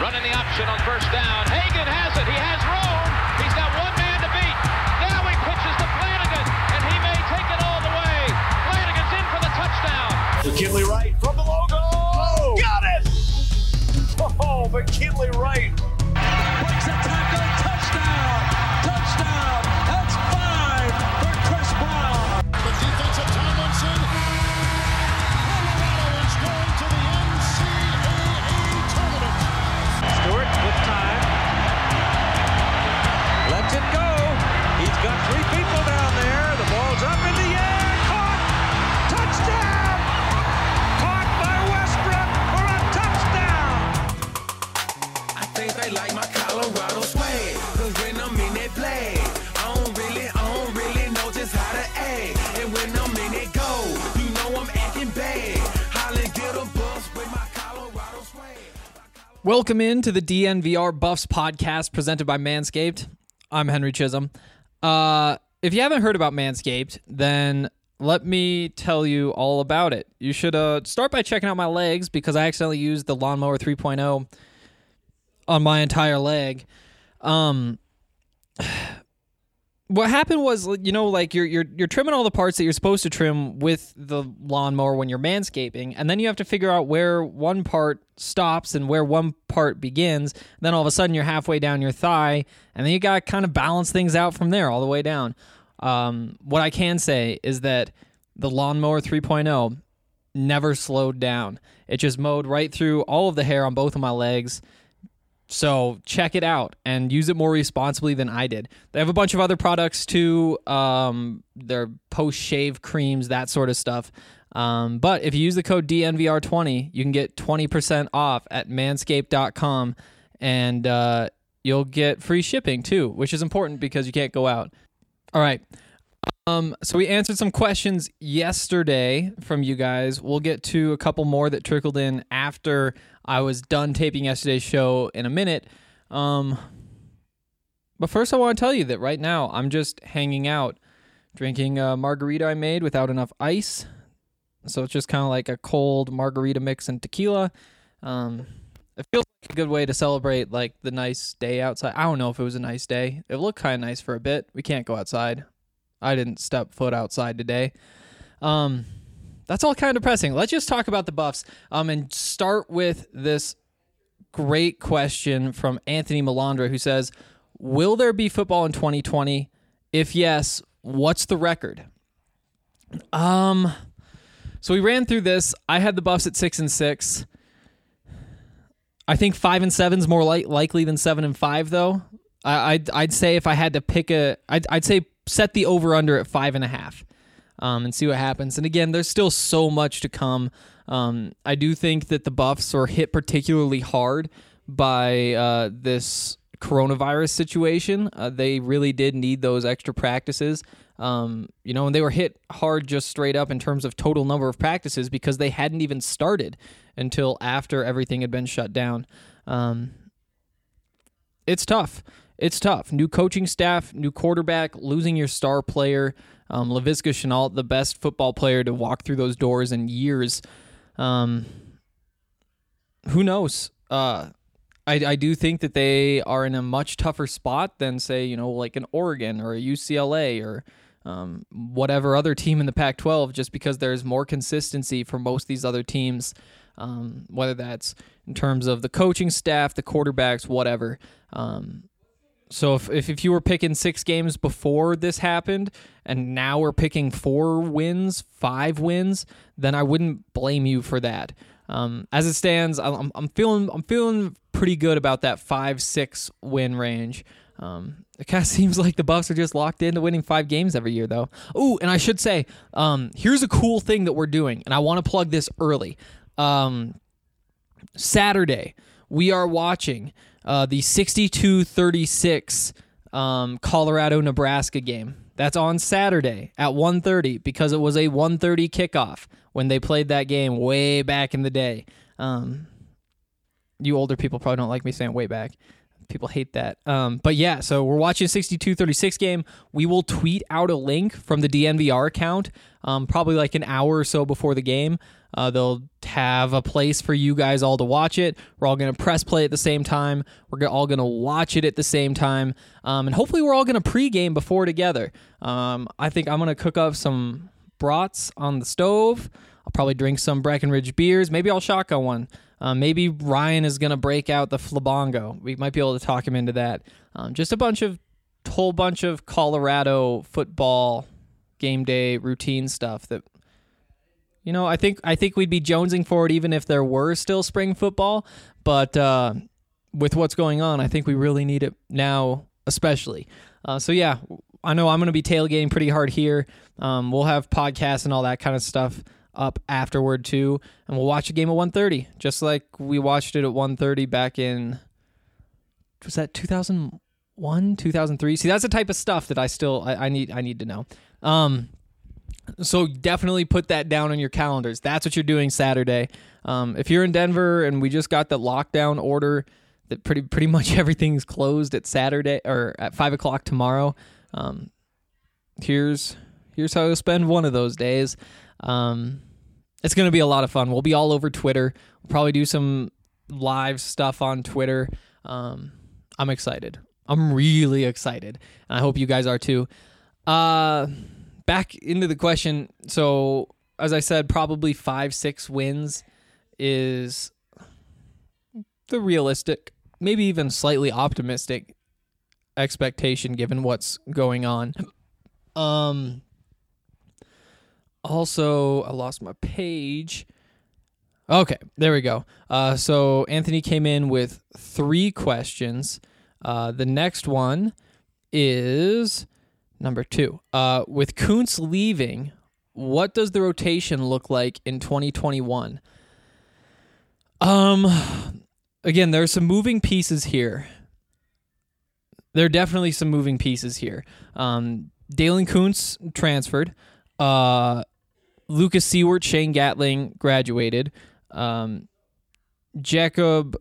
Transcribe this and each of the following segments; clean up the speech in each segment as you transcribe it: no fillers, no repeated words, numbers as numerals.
Running the option on first down. Hagan has it. He has room. He's got one man to beat. Now he pitches to Flanagan, and he may take it all the way. Flanagan's in for the touchdown. McKinley Wright from the logo. Oh, got it! Oh, McKinley Wright. Breaks a tackle. Touchdown. Touchdown. That's 5 for Chris Brown. The defensive Tomlinson. Colorado is going to the NCAA tournament. Stewart with time. Lets it go. He's got 3 people down there. The ball's up in the air. Caught. Touchdown. Caught by Westbrook for a touchdown. I think they like my Colorado swag. Cause when I'm in that play, I don't really know just how to act. And when I'm in it go, you know I'm acting bad. Holland get a bus with my Colorado swag. Welcome into the DNVR Buffs podcast presented by Manscaped. I'm Henry Chisholm. If you haven't heard about Manscaped, then let me tell you all about it. You should start by checking out my legs because I accidentally used the Lawnmower 3.0 on my entire leg. What happened was, you know, like you're trimming all the parts that you're supposed to trim with the lawnmower when you're manscaping, and then you have to figure out where one part stops and where one part begins. Then all of a sudden you're halfway down your thigh, and then you got to kind of balance things out from there all the way down. What I can say is that the Lawnmower 3.0 never slowed down. It just mowed right through all of the hair on both of my legs. So check it out and use it more responsibly than I did. They have a bunch of other products too. Their post-shave creams, that sort of stuff. But if you use the code DNVR20, you can get 20% off at manscaped.com, and you'll get free shipping too, which is important because you can't go out. All right. So we answered some questions yesterday from you guys. We'll get to a couple more that trickled in after I was done taping yesterday's show in a minute. But first I want to tell you that right now I'm just hanging out, drinking a margarita I made without enough ice. So it's just kind of like a cold margarita mix and tequila. It feels like a good way to celebrate like the nice day outside. I don't know if it was a nice day. It looked kind of nice for a bit. We can't go outside. I didn't step foot outside today. That's all kind of depressing. Let's just talk about the Buffs and start with this great question from Anthony Melandra, who says, will there be football in 2020? If yes, what's the record? So we ran through this. I had the Buffs at 6-6. I think 5-7 is more likely than 7-5, though. I'd say if I had to pick I'd say set the over-under at 5.5 and see what happens. And again, there's still so much to come. I do think that the Buffs were hit particularly hard by this coronavirus situation. They really did need those extra practices. And they were hit hard just straight up in terms of total number of practices because they hadn't even started until after everything had been shut down. It's tough. It's tough. New coaching staff, new quarterback, losing your star player, Laviska Shenault, the best football player to walk through those doors in years. Who knows? I do think that they are in a much tougher spot than, say, like an Oregon or a UCLA or whatever other team in the Pac-12, just because there's more consistency for most of these other teams, whether that's in terms of the coaching staff, the quarterbacks, whatever. So if you were picking 6 games before this happened, and now we're picking 4 wins, 5 wins, then I wouldn't blame you for that. As it stands, I'm feeling pretty good about that 5-6 win range. It kind of seems like the Buffs are just locked into winning 5 games every year, though. Ooh, and I should say, here's a cool thing that we're doing, and I want to plug this early. Saturday, we are watching the 62-36 Colorado-Nebraska game. That's on Saturday at 1:30 because it was a 1:30 kickoff when they played that game way back in the day. You older people probably don't like me saying way back. People hate that. But yeah, so we're watching a 62-36 game. We will tweet out a link from the DNVR account, probably like an hour or so before the game. They'll have a place for you guys all to watch it. We're all going to press play at the same time. We're all going to watch it at the same time. And hopefully we're all going to pregame before together. I think I'm going to cook up some brats on the stove. I'll probably drink some Breckenridge beers. Maybe I'll shotgun one. Maybe Ryan is going to break out the Flabongo. We might be able to talk him into that. Just a whole bunch of Colorado football game day routine stuff that, I think we'd be jonesing for it even if there were still spring football. But with what's going on, I think we really need it now, especially. So yeah, I know I'm going to be tailgating pretty hard here. We'll have podcasts and all that kind of stuff up afterward too, and we'll watch a game at 1:30, just like we watched it at 1:30 back in, was that 2001, 2003? See, that's the type of stuff that I need to know. So definitely put that down on your calendars. That's what you're doing Saturday. If you're in Denver and we just got the lockdown order that pretty much everything's closed at Saturday or at 5:00 tomorrow, here's how you'll spend one of those days. It's going to be a lot of fun. We'll be all over Twitter. We'll probably do some live stuff on Twitter. I'm excited. I'm really excited. And I hope you guys are too. Back into the question. So, as I said, probably 5-6 wins is the realistic, maybe even slightly optimistic expectation given what's going on. Also, I lost my page. Okay, there we go. So Anthony came in with 3 questions. The next one is number 2. With Kuntz leaving, what does the rotation look like in 2021? Again, there are some moving pieces here. There are definitely some moving pieces here. Dalen Kuntz transferred. Lucas Seward, Shane Gatling graduated. Jacob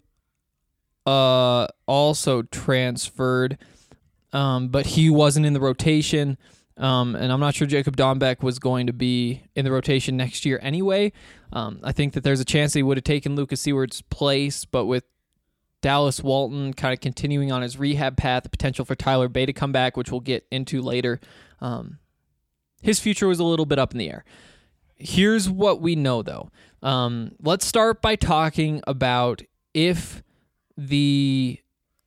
also transferred, but he wasn't in the rotation. And I'm not sure Jacob Dombeck was going to be in the rotation next year anyway. I think that there's a chance that he would have taken Lucas Seward's place, but with Dallas Walton kind of continuing on his rehab path, the potential for Tyler Bay to come back, which we'll get into later, his future was a little bit up in the air. Here's what we know, though. Let's start by talking about if the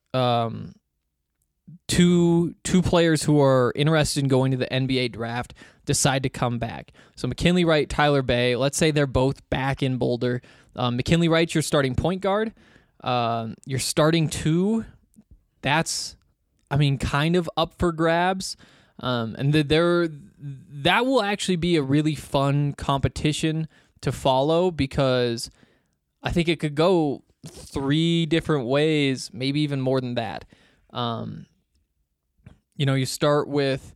two players who are interested in going to the NBA draft decide to come back. So McKinley Wright, Tyler Bay, let's say they're both back in Boulder. McKinley Wright's your starting point guard. Your starting 2, that's, kind of up for grabs. And that will actually be a really fun competition to follow because I think it could go 3 different ways, maybe even more than that. You start with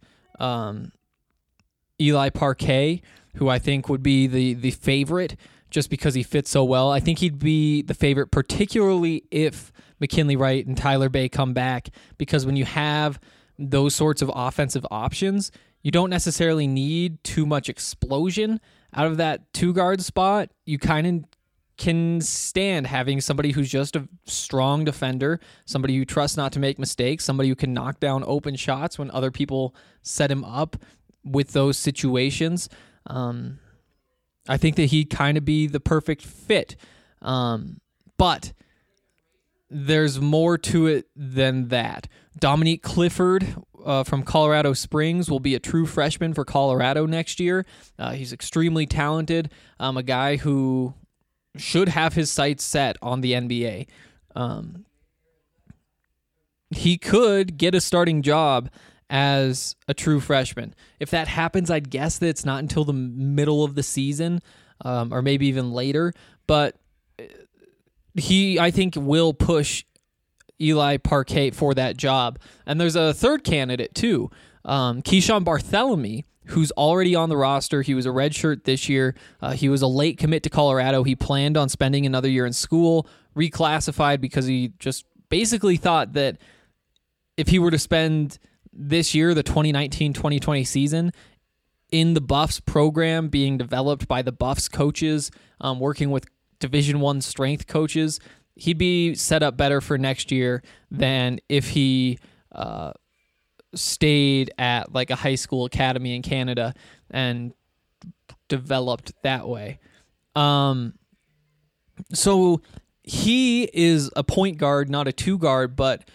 Eli Parquet, who I think would be the favorite just because he fits so well. I think he'd be the favorite, particularly if McKinley Wright and Tyler Bay come back, because when you have those sorts of offensive options, you don't necessarily need too much explosion out of that 2-guard spot. You kind of can stand having somebody who's just a strong defender, somebody you trust not to make mistakes, somebody who can knock down open shots when other people set him up with those situations. I think that he'd kind of be the perfect fit. But there's more to it than that. Dominique Clifford from Colorado Springs will be a true freshman for Colorado next year. He's extremely talented, a guy who should have his sights set on the NBA. He could get a starting job as a true freshman. If that happens, I'd guess that it's not until the middle of the season, or maybe even later. But he, I think, will push Eli Parquet for that job. And there's a third candidate, too. Keyshawn Barthélemy, who's already on the roster. He was a redshirt this year. He was a late commit to Colorado. He planned on spending another year in school, reclassified because he just basically thought that if he were to spend this year, the 2019-2020 season, in the Buffs program being developed by the Buffs coaches, working with Division I strength coaches, he'd be set up better for next year than if he stayed at like a high school academy in Canada and developed that way. So he is a point guard, not a two guard, but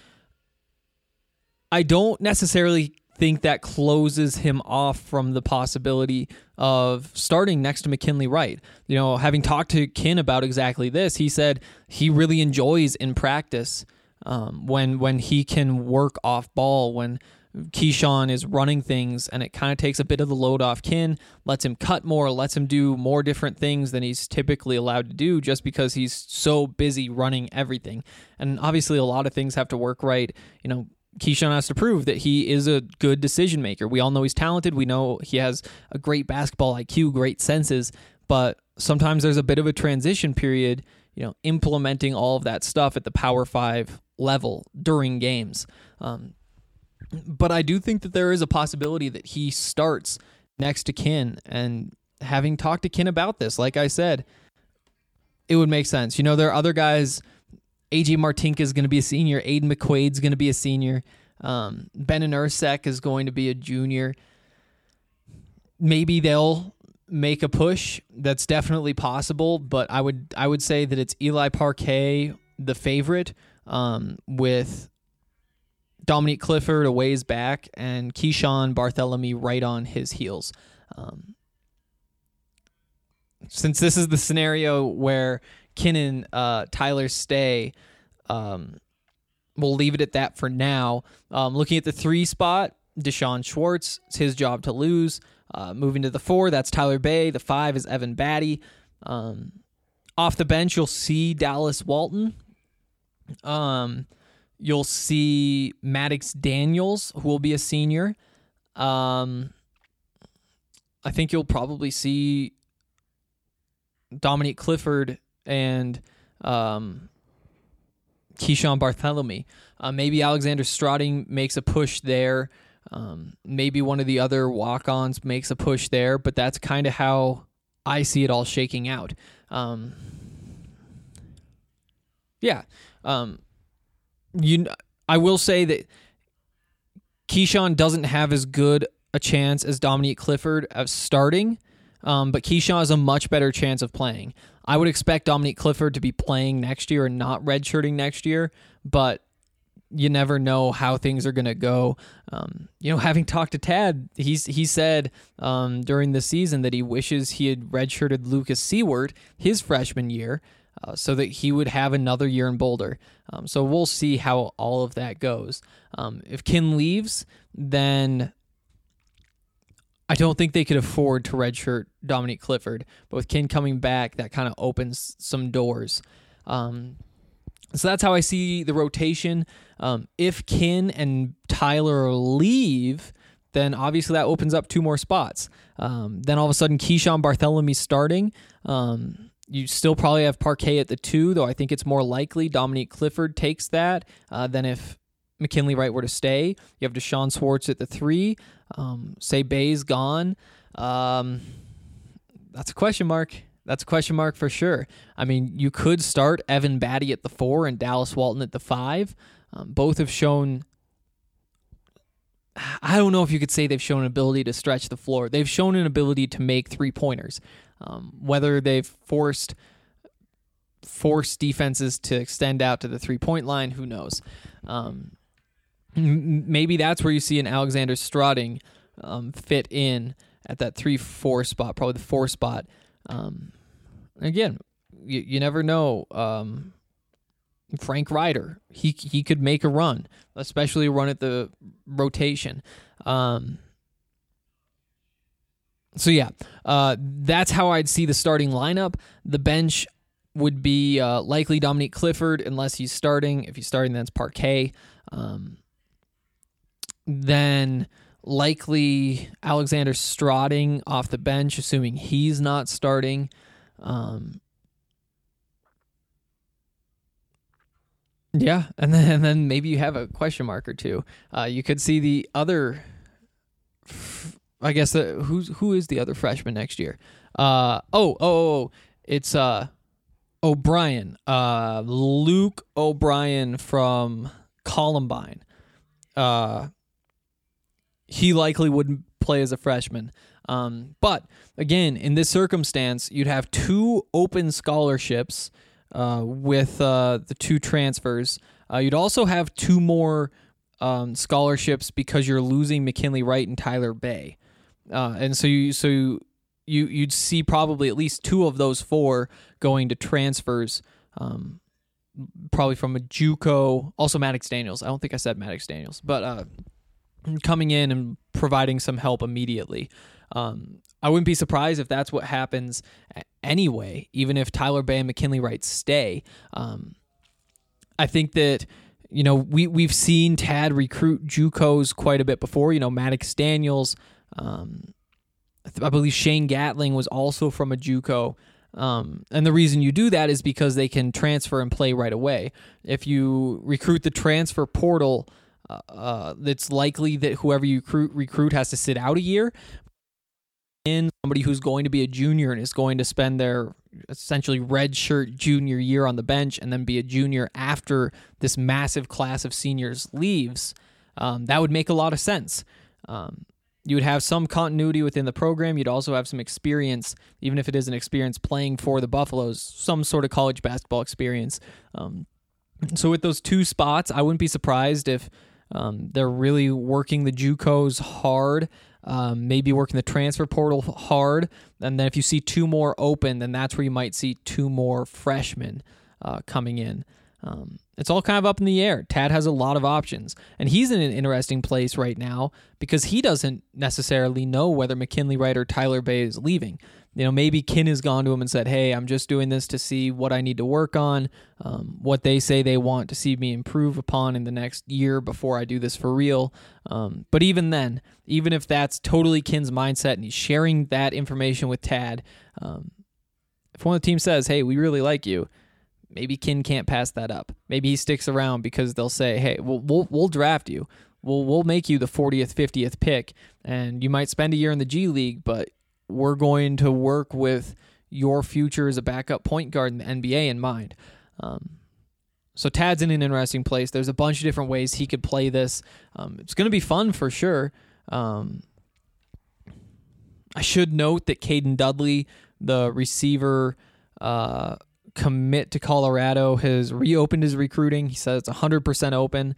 I don't necessarily think that closes him off from the possibility of starting next to McKinley Wright. You know, having talked to Kin about exactly this, he said he really enjoys in practice when he can work off ball, when Keyshawn is running things, and it kind of takes a bit of the load off Kin, lets him cut more, lets him do more different things than he's typically allowed to do just because he's so busy running everything. And obviously a lot of things have to work right. You know, Keyshawn has to prove that he is a good decision maker. We all know he's talented. We know he has a great basketball IQ, great senses, but sometimes there's a bit of a transition period, you know, implementing all of that stuff at the Power 5 level during games. But I do think that there is a possibility that he starts next to Kin, and having talked to Kin about this, like I said, it would make sense. You know, there are other guys. AJ Martinka is going to be a senior. Aiden McQuaid's going to be a senior. Ben Ursek is going to be a junior. Maybe they'll make a push. That's definitely possible, but I would say that it's Eli Parquet, the favorite, with Dominique Clifford a ways back, and Keyshawn Bartholomew right on his heels. Since this is the scenario where Kin and Tyler stay, we'll leave it at that for now. Looking at the 3 spot, Deshaun Schwartz, it's his job to lose. Moving to the 4, that's Tyler Bay. The 5 is Evan Batty. Off the bench, you'll see Dallas Walton. You'll see Maddox Daniels, who will be a senior. I think you'll probably see Dominique Clifford and Keyshawn Bartholomew. Maybe Alexander Strauding makes a push there. Maybe one of the other walk-ons makes a push there, but that's kind of how I see it all shaking out. I will say that Keyshawn doesn't have as good a chance as Dominique Clifford of starting, but Keyshawn has a much better chance of playing. I would expect Dominique Clifford to be playing next year and not redshirting next year, but you never know how things are going to go. Having talked to Tad, he said during the season that he wishes he had redshirted Lucas Seward his freshman year so that he would have another year in Boulder. So we'll see how all of that goes. If Kin leaves, then I don't think they could afford to redshirt Dominique Clifford, but with Kin coming back, that kind of opens some doors. So that's how I see the rotation. If Kin and Tyler leave, then obviously that opens up 2 more spots. Then all of a sudden, Keyshawn Bartholomew starting. You still probably have Parquet at the 2, though I think it's more likely Dominique Clifford takes that than if McKinley Wright were to stay. You have Deshaun Schwartz at the 3. Say Bay's gone. That's a question mark. That's a question mark for sure. I mean, you could start Evan Batty at the 4 and Dallas Walton at the 5. Both have shown, I don't know if you could say they've shown an ability to stretch the floor. They've shown an ability to make 3-pointers. Whether they've forced defenses to extend out to the 3-point line, who knows? Maybe that's where you see an Alexander Strauding fit in at that 3-4 spot, probably the 4 spot. Again, you never know. Frank Ryder, he could make a run, especially a run at the rotation. That's how I'd see the starting lineup. The bench would be likely Dominique Clifford unless he's starting. If he's starting, then it's Parquet. Then likely Alexander Strauding off the bench, assuming he's not starting. Yeah, and then maybe you have a question mark or two. You could see the other. I guess who is the other freshman next year? It's O'Brien, Luke O'Brien from Columbine. He likely wouldn't play as a freshman. But again, in this circumstance, you'd have 2 open scholarships with the 2 transfers. You'd also have 2 more scholarships because you're losing McKinley Wright and Tyler Bay. And so you'd see probably at least 2 of those 4 going to transfers, probably from a JUCO, also Maddox Daniels. I don't think I said Maddox Daniels, but coming in and providing some help immediately. I wouldn't be surprised if that's what happens anyway, even if Tyler Bay and McKinley Wright stay. I think that, we've seen Tad recruit JUCOs quite a bit before. Maddox Daniels, I believe Shane Gatling was also from a JUCO. And the reason you do that is because they can transfer and play right away. If you recruit the transfer portal, it's likely that whoever you recruit has to sit out a year. In somebody who's going to be a junior and is going to spend their essentially redshirt junior year on the bench and then be a junior after this massive class of seniors leaves, that would make a lot of sense. You would have some continuity within the program. You'd also have some experience, even if it isn't experience playing for the Buffaloes, some sort of college basketball experience. So with those 2 spots, I wouldn't be surprised if they're really working the JUCOs hard, maybe working the transfer portal hard, and then if you see 2 more open, then that's where you might see 2 more freshmen coming in. It's all kind of up in the air. Tad has a lot of options, and he's in an interesting place right now because he doesn't necessarily know whether McKinley Wright or Tyler Bay is leaving. Maybe Kin has gone to him and said, hey, I'm just doing this to see what I need to work on, what they say they want to see me improve upon in the next year before I do this for real. But even then, even if that's totally Kin's mindset and he's sharing that information with Tad, if one of the teams says, hey, we really like you, maybe Kin can't pass that up. Maybe he sticks around because they'll say, hey, we'll draft you. We'll make you the 40th, 50th pick, and you might spend a year in the G League, but we're going to work with your future as a backup point guard in the NBA in mind. So Tad's in an interesting place. There's a bunch of different ways he could play this. It's going to be fun for sure. I should note that Caden Dudley, the receiver commit to Colorado, has reopened his recruiting. He says it's 100% open.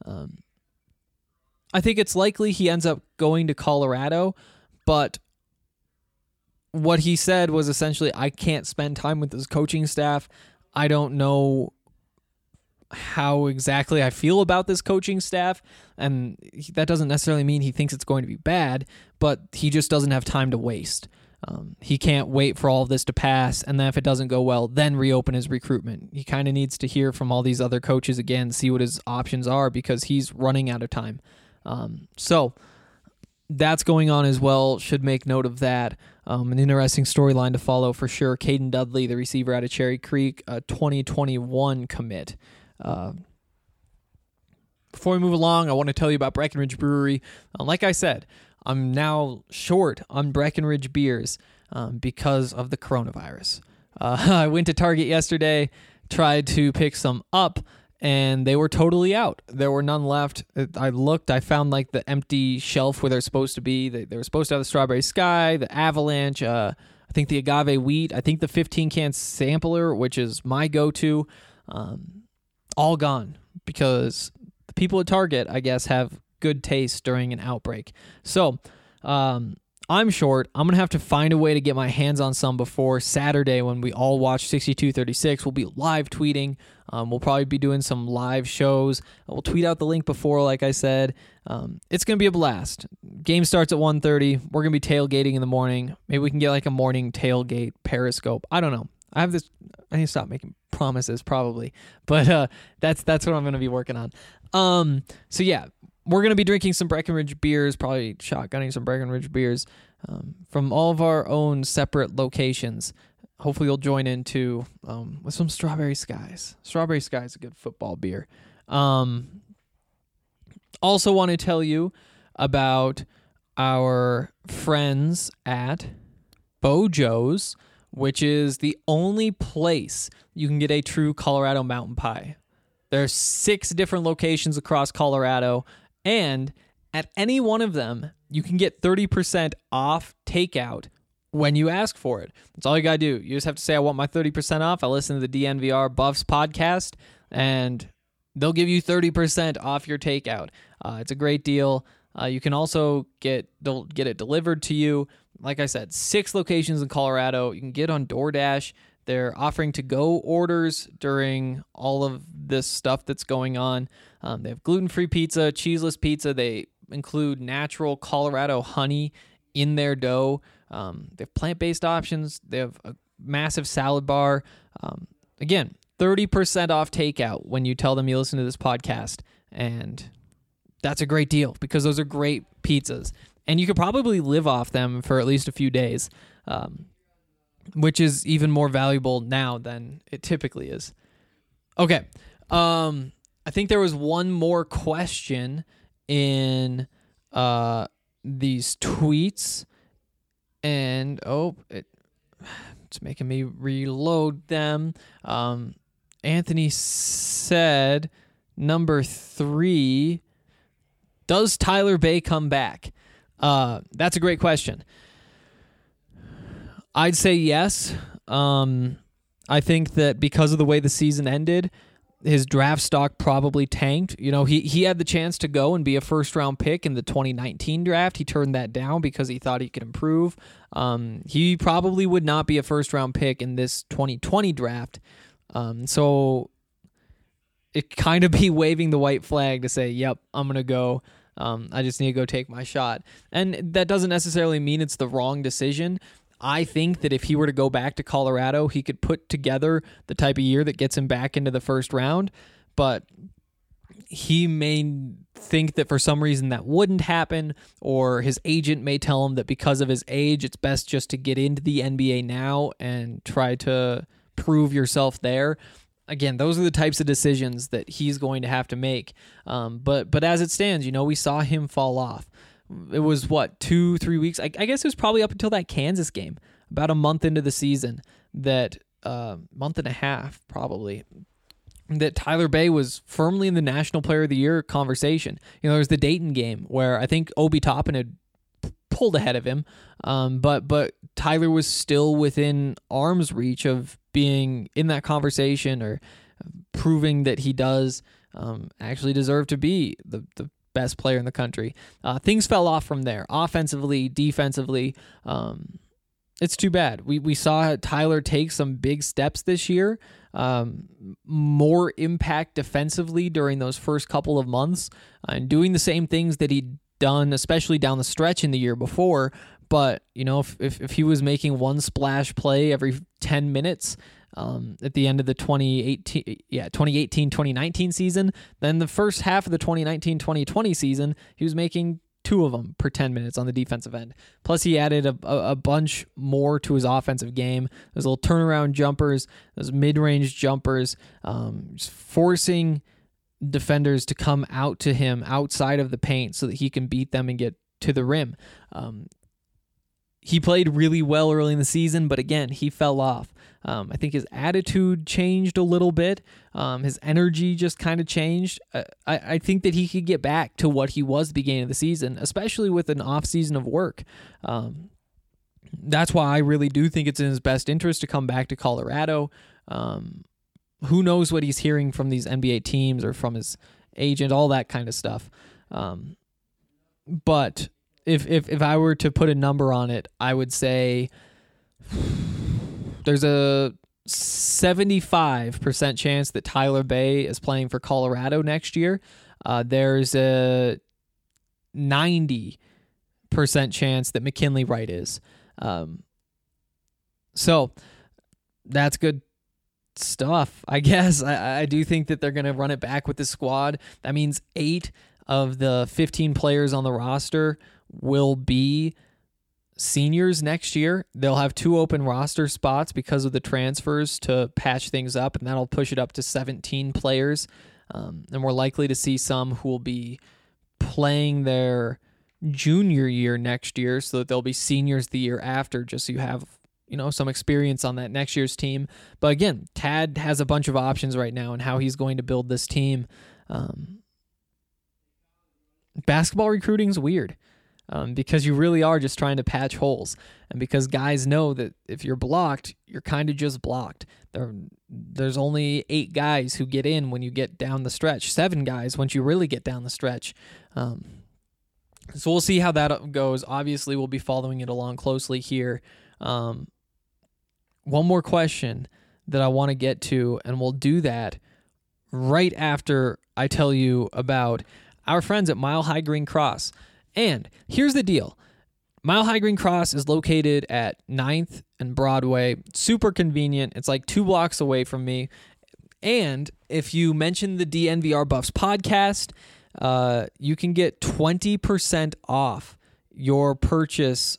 I think it's likely he ends up going to Colorado, but what he said was essentially, I can't spend time with his coaching staff. I don't know how exactly I feel about this coaching staff, and that doesn't necessarily mean he thinks it's going to be bad, but he just doesn't have time to waste. He can't wait for all of this to pass, and then if it doesn't go well, then reopen his recruitment. He kind of needs to hear from all these other coaches again, see what his options are, because he's running out of time. So that's going on as well. Should make note of that. An interesting storyline to follow for sure. Caden Dudley, the receiver out of Cherry Creek, a 2021 commit. Before we move along, I want to tell you about Breckenridge Brewery. Like I said, I'm now short on Breckenridge beers because of the coronavirus. I went to Target yesterday, tried to pick some up, and they were totally out. There were none left. I looked, I found like the empty shelf where they're supposed to be. They were supposed to have the Strawberry Sky, the Avalanche, I think the Agave Wheat, I think the 15-can sampler, which is my go-to, all gone because the people at Target, I guess, have good taste during an outbreak. So, I'm short. I'm going to have to find a way to get my hands on some before Saturday when we all watch 62-36. We'll be live tweeting. We'll probably be doing some live shows. We'll tweet out the link before, like I said. It's going to be a blast. Game starts at 1:30. We're going to be tailgating in the morning. Maybe we can get like a morning tailgate Periscope. I don't know. I need to stop making promises probably. But that's what I'm going to be working on. So yeah. We're going to be drinking some Breckenridge beers, probably shotgunning some Breckenridge beers from all of our own separate locations. hopefully you'll join in too with some Strawberry Skies. Strawberry Skies is a good football beer. Also want to tell you about our friends at Bojo's, which is the only place you can get a true Colorado mountain pie. There's 6 different locations across Colorado, and at any one of them, you can get 30% off takeout when you ask for it. That's all you got to do. You just have to say, I want my 30% off. I listen to the DNVR Buffs podcast, and they'll give you 30% off your takeout. It's a great deal. You can also get it delivered to you. Like I said, 6 locations in Colorado. You can get on DoorDash. They're offering to-go orders during all of this stuff that's going on. They have gluten-free pizza, cheeseless pizza. They include natural Colorado honey in their dough. They have plant-based options. They have a massive salad bar. Again, 30% off takeout when you tell them you listen to this podcast. And that's a great deal because those are great pizzas. And you could probably live off them for at least a few days, which is even more valuable now than it typically is. Okay. I think there was one more question in these tweets. And, it's making me reload them. Anthony said, number 3, does Tyler Bay come back? That's a great question. I'd say yes. I think that because of the way the season ended, his draft stock probably tanked. You know, he had the chance to go and be a first-round pick in the 2019 draft. He turned that down because he thought he could improve. He probably would not be a first-round pick in this 2020 draft. So it kind of be waving the white flag to say, yep, I'm going to go. I just need to go take my shot. And that doesn't necessarily mean it's the wrong decision. I think that if he were to go back to Colorado, he could put together the type of year that gets him back into the first round, but he may think that for some reason that wouldn't happen, or his agent may tell him that because of his age, it's best just to get into the NBA now and try to prove yourself there. Again, those are the types of decisions that he's going to have to make. But as it stands, we saw him fall off. It was, 2-3 weeks? I guess it was probably up until that Kansas game, about a month into the season, that month and a half probably, that Tyler Bay was firmly in the National Player of the Year conversation. There was the Dayton game where I think Obi Toppin had pulled ahead of him, but Tyler was still within arm's reach of being in that conversation or proving that he does actually deserve to be the best player in the country. Things fell off from there, offensively, defensively. It's too bad. We saw Tyler take some big steps this year, more impact defensively during those first couple of months, and doing the same things that he'd done, especially down the stretch in the year before. But, if he was making one splash play every 10 minutes at the end of the 2018-2019 season, then the first half of the 2019-2020 season, he was making 2 of them per 10 minutes on the defensive end. Plus, he added a bunch more to his offensive game. Those little turnaround jumpers, those mid-range jumpers, just forcing defenders to come out to him outside of the paint so that he can beat them and get to the rim. He played really well early in the season, but again, he fell off. I think his attitude changed a little bit. His energy just kind of changed. I think that he could get back to what he was at the beginning of the season, especially with an off season of work. That's why I really do think it's in his best interest to come back to Colorado. Who knows what he's hearing from these NBA teams or from his agent, all that kind of stuff. But if I were to put a number on it, I would say there's a 75% chance that Tyler Bay is playing for Colorado next year. There's a 90% chance that McKinley Wright is. So that's good stuff, I guess. I do think that they're going to run it back with the squad. That means 8 of the 15 players on the roster will be seniors next year. They'll have 2 open roster spots because of the transfers to patch things up, and that'll push it up to 17 players. And we're likely to see some who will be playing their junior year next year, so that they'll be seniors the year after, just so you have some experience on that next year's team. But again, Tad has a bunch of options right now in how he's going to build this team. Basketball recruiting is weird because you really are just trying to patch holes, and because guys know that if you're blocked, you're kind of just blocked. There's only 8 guys who get in when you get down the stretch, 7 guys once you really get down the stretch. So we'll see how that goes. Obviously, we'll be following it along closely here. One more question that I want to get to, and we'll do that right after I tell you about our friends at Mile High Green Cross. And here's the deal. Mile High Green Cross is located at 9th and Broadway. Super convenient. It's like 2 blocks away from me. And if you mention the DNVR Buffs podcast, you can get 20% off your purchase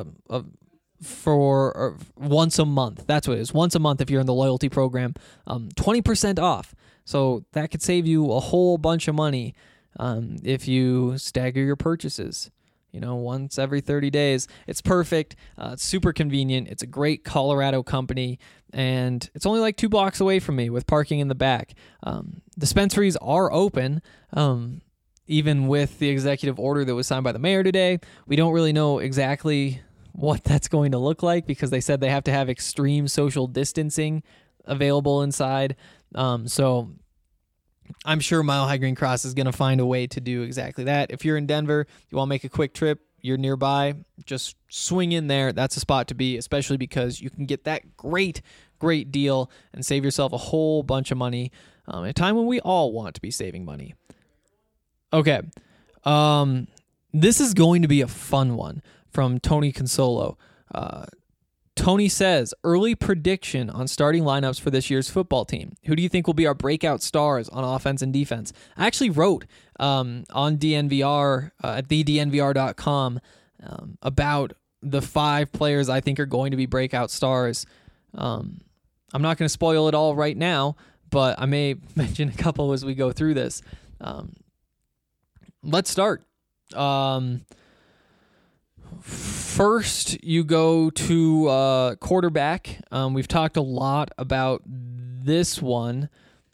for once a month. That's what it is. Once a month if you're in the loyalty program. 20% off. So that could save you a whole bunch of money if you stagger your purchases. Once every 30 days. It's perfect. It's super convenient. It's a great Colorado company, and it's only like 2 blocks away from me with parking in the back. Dispensaries are open, even with the executive order that was signed by the mayor today. We don't really know exactly what that's going to look like because they said they have to have extreme social distancing available inside. So I'm sure Mile High Green Cross is going to find a way to do exactly that. If you're in Denver, you want to make a quick trip, you're nearby, just swing in there. That's a spot to be, especially because you can get that great deal and save yourself a whole bunch of money at a time when we all want to be saving money. Okay. This is going to be a fun one from Tony Consolo. Tony says, early prediction on starting lineups for this year's football team. Who do you think will be our breakout stars on offense and defense? I actually wrote on DNVR at thednvr.com about the 5 players I think are going to be breakout stars. I'm not going to spoil it all right now, but I may mention a couple as we go through this. Let's start. First, you go to quarterback. We've talked a lot about this one.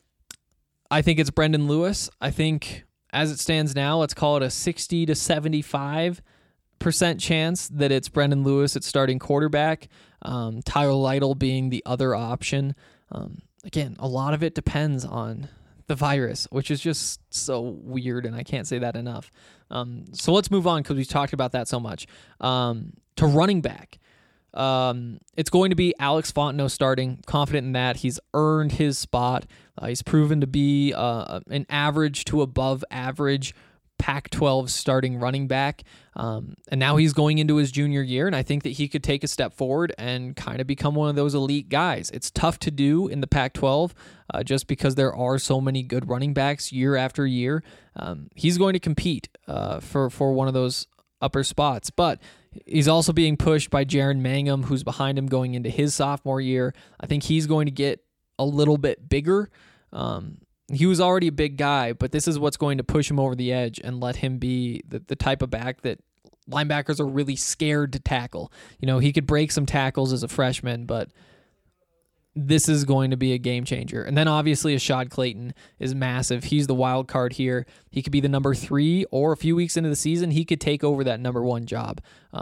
I think it's Brendan Lewis. I think as it stands now, let's call it a 60 to 75% chance that it's Brendan Lewis at starting quarterback. Tyler Lytle being the other option. Again, a lot of it depends on the virus, which is just so weird, and I can't say that enough. So let's move on because we've talked about that so much. To running back. It's going to be Alex Fontenot starting. Confident in that. He's earned his spot. He's proven to be an average to above average Pac-12 starting running back. And now he's going into his junior year, and I think that he could take a step forward and kind of become one of those elite guys. It's tough to do in the Pac-12 just because there are so many good running backs year after year. He's going to compete for one of those upper spots, but he's also being pushed by Jaron Mangum, who's behind him going into his sophomore year. I think he's going to get a little bit bigger. He was already a big guy, but this is what's going to push him over the edge and let him be the type of back that linebackers are really scared to tackle. He could break some tackles as a freshman, but this is going to be a game changer. And then obviously Ashad Clayton is massive. He's the wild card here. He could be the number 3, or a few weeks into the season, he could take over that number 1 job.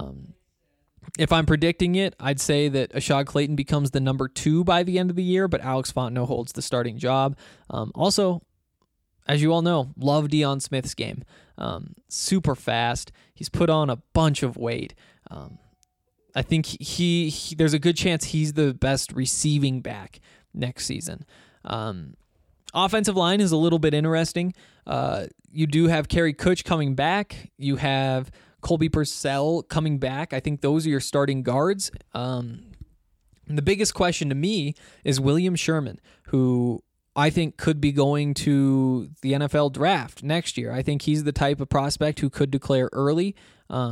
If I'm predicting it, I'd say that Ashad Clayton becomes the number 2 by the end of the year, but Alex Fontenot holds the starting job. Also, as you all know, love Deion Smith's game. Super fast. He's put on a bunch of weight. I think he there's a good chance he's the best receiving back next season. Offensive line is a little bit interesting. You do have Kerry Kutch coming back. You have Colby Purcell coming back. I think those are your starting guards. The biggest question to me is William Sherman, who I think could be going to the NFL draft next year. I think he's the type of prospect who could declare early.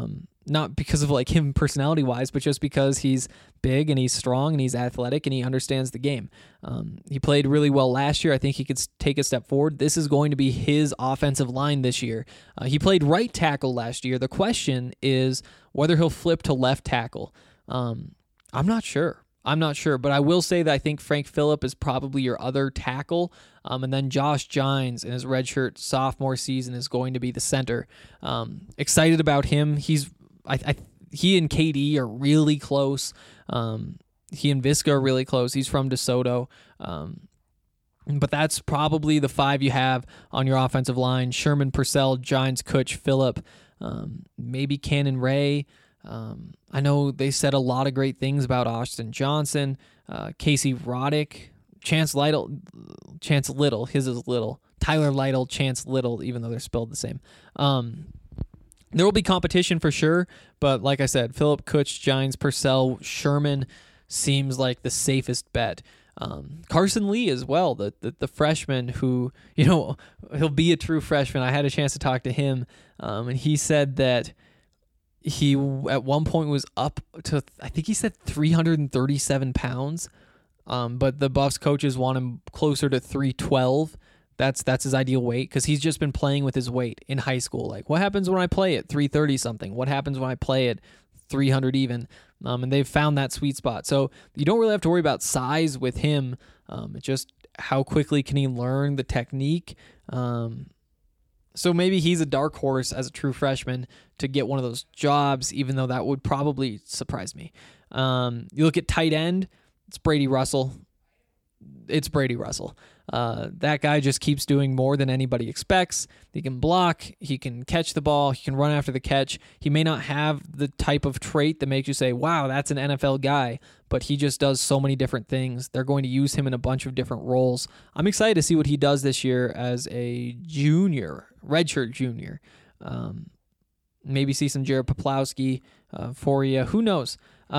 Not because of like him personality-wise, but just because he's big and he's strong and he's athletic and he understands the game. He played really well last year. I think he could take a step forward. This is going to be his offensive line this year. He played right tackle last year. The question is whether he'll flip to left tackle. I'm not sure. But I will say that I think Frank Phillip is probably your other tackle, and then Josh Gines in his redshirt sophomore season is going to be the center. Excited about him. He and KD are really close. He and Visca are really close. He's from DeSoto. But that's probably the 5 you have on your offensive line: Sherman, Purcell, Gines, Kutch, Phillip, maybe Cannon Ray. I know they said a lot of great things about Austin Johnson, Casey Roddick, Chance Little, his is Little, Tyler Lytle, Chance Little, even though they're spelled the same. There will be competition for sure, but like I said, Phillip, Kutch, Gines, Purcell, Sherman seems like the safest bet. Carson Lee as well, the freshman who, he'll be a true freshman. I had a chance to talk to him, and he said that he at one point was up to, I think he said 337 pounds, but the Buffs coaches want him closer to 312. That's his ideal weight because he's just been playing with his weight in high school. Like, what happens when I play at 330 something? What happens when I play at 300 even? And they've found that sweet spot. So you don't really have to worry about size with him. It's just how quickly can he learn the technique. So maybe he's a dark horse as a true freshman to get one of those jobs, even though that would probably surprise me. You look at tight end, it's Brady Russell. That guy just keeps doing more than anybody expects. He can block, he can catch the ball, he can run after the catch. He may not have the type of trait that makes you say, wow, that's an NFL guy, but he just does so many different things. They're going to use him in a bunch of different roles. I'm excited to see what he does this year as a junior, redshirt junior. Maybe see some Jared Poplawski for you. Who knows?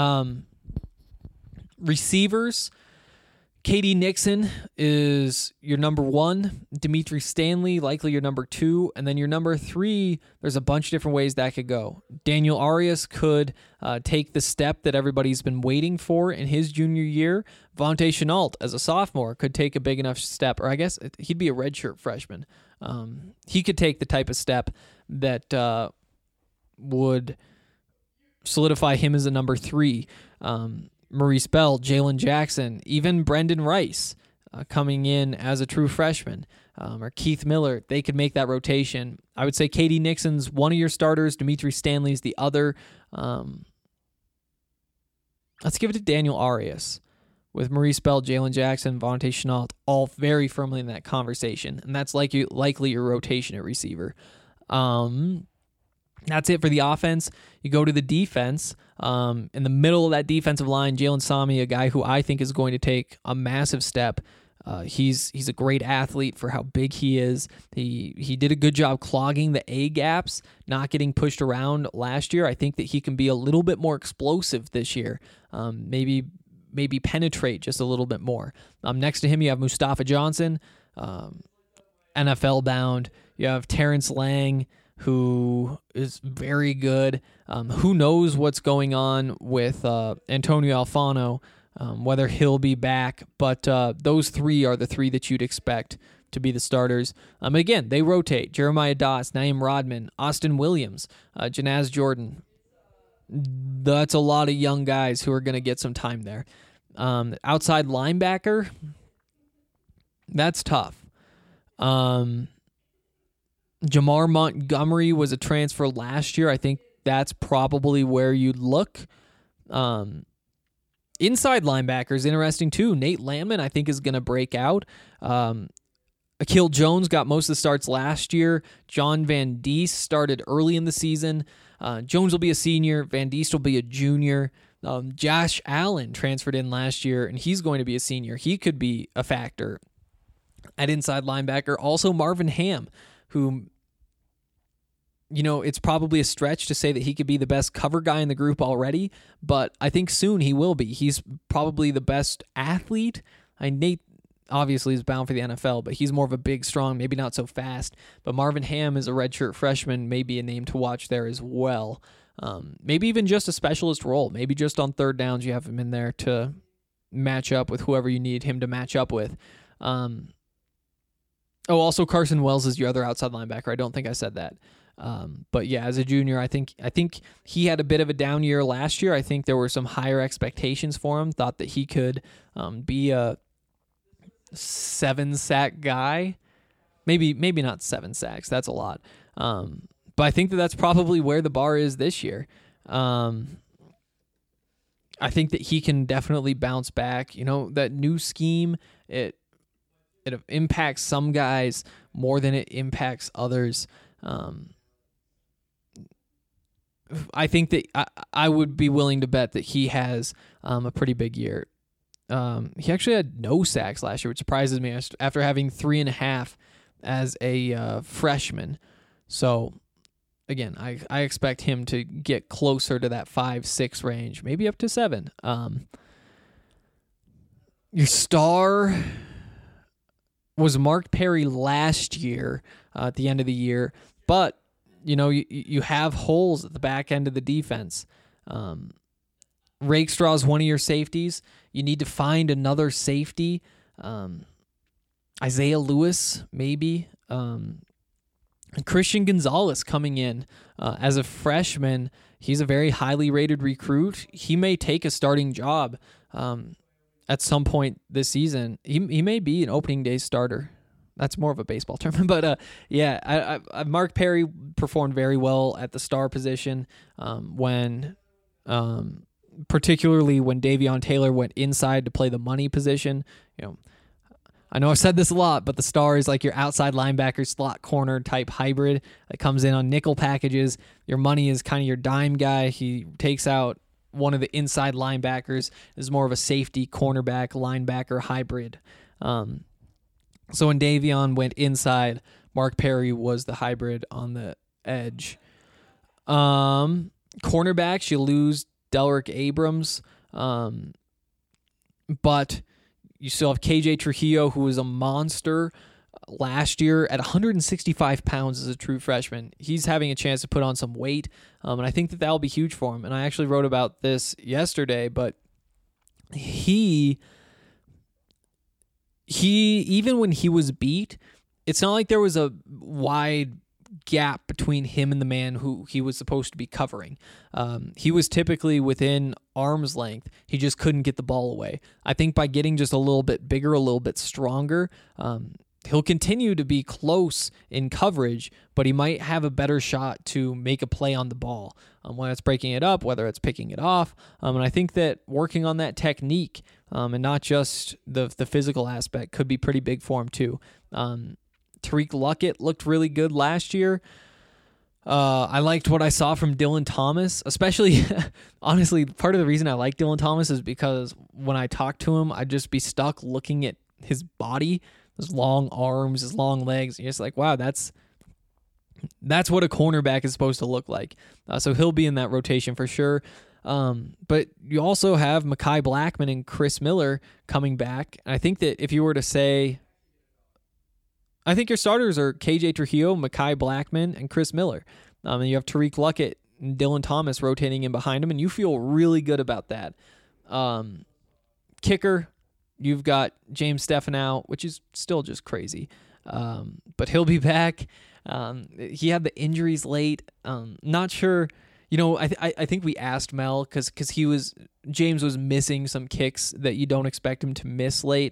Receivers, KD Nixon is your number 1. Dimitri Stanley, likely your number 2. And then your number 3, there's a bunch of different ways that could go. Daniel Arias could take the step that everybody's been waiting for in his junior year. Vontae Chenault, as a sophomore, could take a big enough step, or I guess he'd be a redshirt freshman. He could take the type of step that would solidify him as a number 3. Maurice Bell, Jalen Jackson, even Brendan Rice coming in as a true freshman, or Keith Miller, they could make that rotation. I would say KD Nixon's one of your starters, Dimitri Stanley's the other. Let's give it to Daniel Arias with Maurice Bell, Jalen Jackson, Vontae Chenault, all very firmly in that conversation, and that's likely your rotation at receiver. That's it for the offense. You go to the defense. In the middle of that defensive line, Jalen Sami, a guy who I think is going to take a massive step. He's a great athlete for how big he is. He did a good job clogging the A gaps, not getting pushed around last year. I think that he can be a little bit more explosive this year. Maybe penetrate just a little bit more. Next to him, you have Mustafa Johnson, NFL bound. You have Terrence Lang, who is very good. Who knows what's going on with Antonio Alfano, whether he'll be back, but those 3 are the 3 that you'd expect to be the starters. Again, they rotate. Jeremiah Doss, Naeem Rodman, Austin Williams, Janaz Jordan. That's a lot of young guys who are going to get some time there. Outside linebacker, that's tough. Jamar Montgomery was a transfer last year. I think that's probably where you'd look. Inside linebackers, interesting too. Nate Landman, I think, is going to break out. Akil Jones got most of the starts last year. John Van Diest started early in the season. Jones will be a senior. Van Diest will be a junior. Josh Allen transferred in last year, and he's going to be a senior. He could be a factor at inside linebacker. Also, Marvin Ham, who, it's probably a stretch to say that he could be the best cover guy in the group already, but I think soon he will be. He's probably the best athlete. Nate obviously is bound for the NFL, but he's more of a big, strong, maybe not so fast. But Marvin Ham is a redshirt freshman, maybe a name to watch there as well. Maybe even just a specialist role. Maybe just on third downs you have him in there to match up with whoever you need him to match up with. Also Carson Wells is your other outside linebacker. I don't think I said that. But yeah, as a junior, I think he had a bit of a down year last year. I think there were some higher expectations for him. Thought that he could be a 7-sack guy. Maybe not 7 sacks. That's a lot. But I think that's probably where the bar is this year. I think that he can definitely bounce back. That new scheme, it impacts some guys more than it impacts others. I think that I would be willing to bet that he has a pretty big year. He actually had no sacks last year, which surprises me after having 3.5 as a freshman. So, again, I expect him to get closer to that 5-6 range, maybe up to 7. Your star was Mark Perry last year at the end of the year, but you have holes at the back end of the defense. Rakestraw is one of your safeties. You need to find another safety. Isaiah Lewis, maybe. Christian Gonzalez coming in as a freshman. He's a very highly rated recruit. He may take a starting job at some point this season. He may be an opening day starter. That's more of a baseball term, but yeah, Mark Perry performed very well at the star position particularly when Davion Taylor went inside to play the money position. I know I've said this a lot, but the star is like your outside linebacker, slot corner type hybrid that comes in on nickel packages. Your money is kind of your dime guy. He takes out one of the inside linebackers, is more of a safety cornerback linebacker hybrid. So when Davion went inside, Mark Perry was the hybrid on the edge. Cornerbacks, you lose Delrick Abrams, but you still have KJ Trujillo, who was a monster last year at 165 pounds as a true freshman. He's having a chance to put on some weight, and I think that will be huge for him. And I actually wrote about this yesterday, but he even when he was beat, it's not like there was a wide gap between him and the man who he was supposed to be covering. He was typically within arm's length. He just couldn't get the ball away. I think by getting just a little bit bigger, a little bit stronger, he'll continue to be close in coverage, but he might have a better shot to make a play on the ball, whether it's breaking it up, whether it's picking it off. And I think that working on that technique and not just the physical aspect could be pretty big for him too. Tariq Luckett looked really good last year. I liked what I saw from Dylan Thomas, especially, honestly, part of the reason I like Dylan Thomas is because when I talk to him, I'd just be stuck looking at his body, his long arms, his long legs. You're just like, wow, that's what a cornerback is supposed to look like. So he'll be in that rotation for sure. But you also have Mekhi Blackman and Chris Miller coming back. And I think that if you were to say, I think your starters are KJ Trujillo, Mekhi Blackman, and Chris Miller. And you have Tariq Luckett and Dylan Thomas rotating in behind him, and you feel really good about that. Kicker, you've got James Stefanow, which is still just crazy. But he'll be back. He had the injuries late. Not sure. I think we asked Mel because James was missing some kicks that you don't expect him to miss late.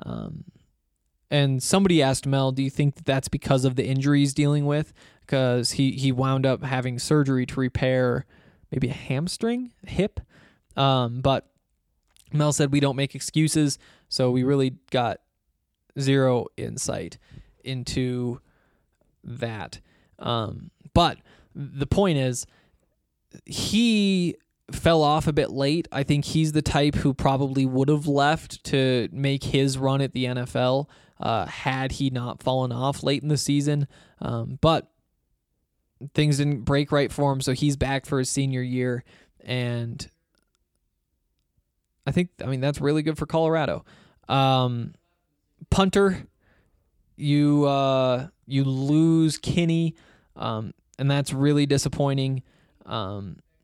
And somebody asked Mel, do you think that that's because of the injuries dealing with? Because he wound up having surgery to repair maybe a hamstring, hip. But Mel said we don't make excuses, so we really got zero insight into that. But the point is, he fell off a bit late. I think he's the type who probably would have left to make his run at the NFL had he not fallen off late in the season. But things didn't break right for him, so he's back for his senior year. And I mean, that's really good for Colorado. Punter, you lose Kinney, and that's really disappointing.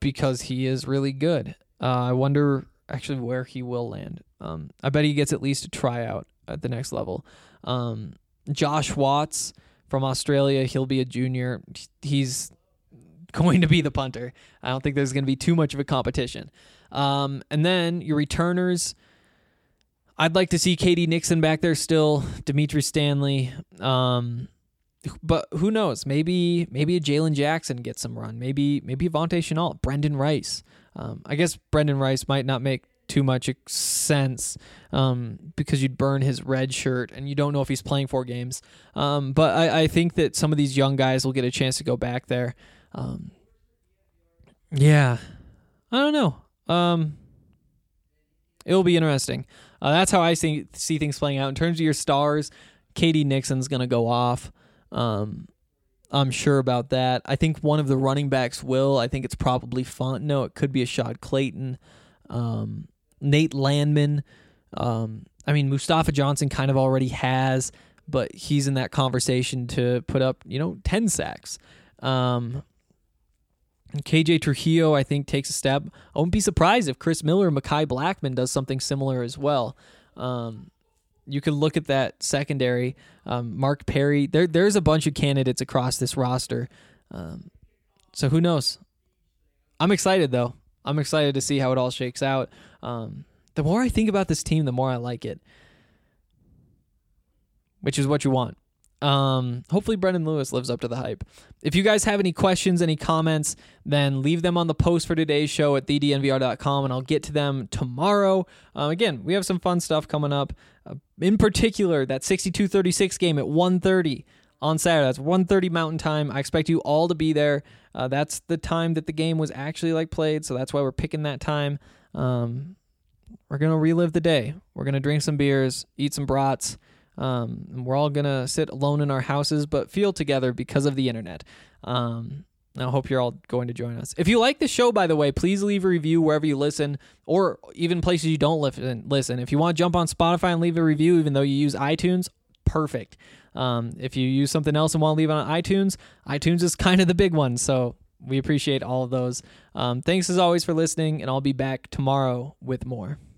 because he is really good. I wonder actually where he will land. I bet he gets at least a tryout at the next level. Josh Watts from Australia, he'll be a junior. He's going to be the punter. I don't think there's going to be too much of a competition. And then your returners, I'd like to see KD Nixon back there still, Dimitri Stanley. But who knows? Maybe a Jalen Jackson gets some run. Maybe Vontae Chenault, Brendan Rice. I guess Brendan Rice might not make too much sense because you'd burn his red shirt and you don't know if he's playing 4 games. But I think that some of these young guys will get a chance to go back there. Yeah, I don't know. It'll be interesting. That's how I see things playing out. In terms of your stars, KD Nixon's going to go off. I'm sure about that. I think one of the running backs will. I think it's probably Fontenot. It could be Ashad Clayton. Nate Landman. Mustafa Johnson kind of already has, but he's in that conversation to put up, 10 sacks. KJ Trujillo, I think, takes a step. I wouldn't be surprised if Chris Miller or Mekhi Blackman does something similar as well. You could look at that secondary. Mark Perry. There's a bunch of candidates across this roster. So who knows? I'm excited, though. I'm excited to see how it all shakes out. The more I think about this team, the more I like it, which is what you want. Hopefully Brendan Lewis lives up to the hype. If you guys have any questions, any comments, then leave them on the post for today's show at thednvr.com, and I'll get to them tomorrow. Again, we have some fun stuff coming up. In particular, that 62-36 game at 1:30 on Saturday. That's 1:30 Mountain Time. I expect you all to be there. That's the time that the game was actually played, so that's why we're picking that time. We're going to relive the day. We're going to drink some beers, eat some brats. We're all going to sit alone in our houses, but feel together because of the internet. I hope you're all going to join us. If you like the show, by the way, please leave a review wherever you listen, or even places you don't listen. If you want to jump on Spotify and leave a review, even though you use iTunes, perfect. If you use something else and want to leave it on iTunes is kind of the big one, so we appreciate all of those. Thanks as always for listening, and I'll be back tomorrow with more.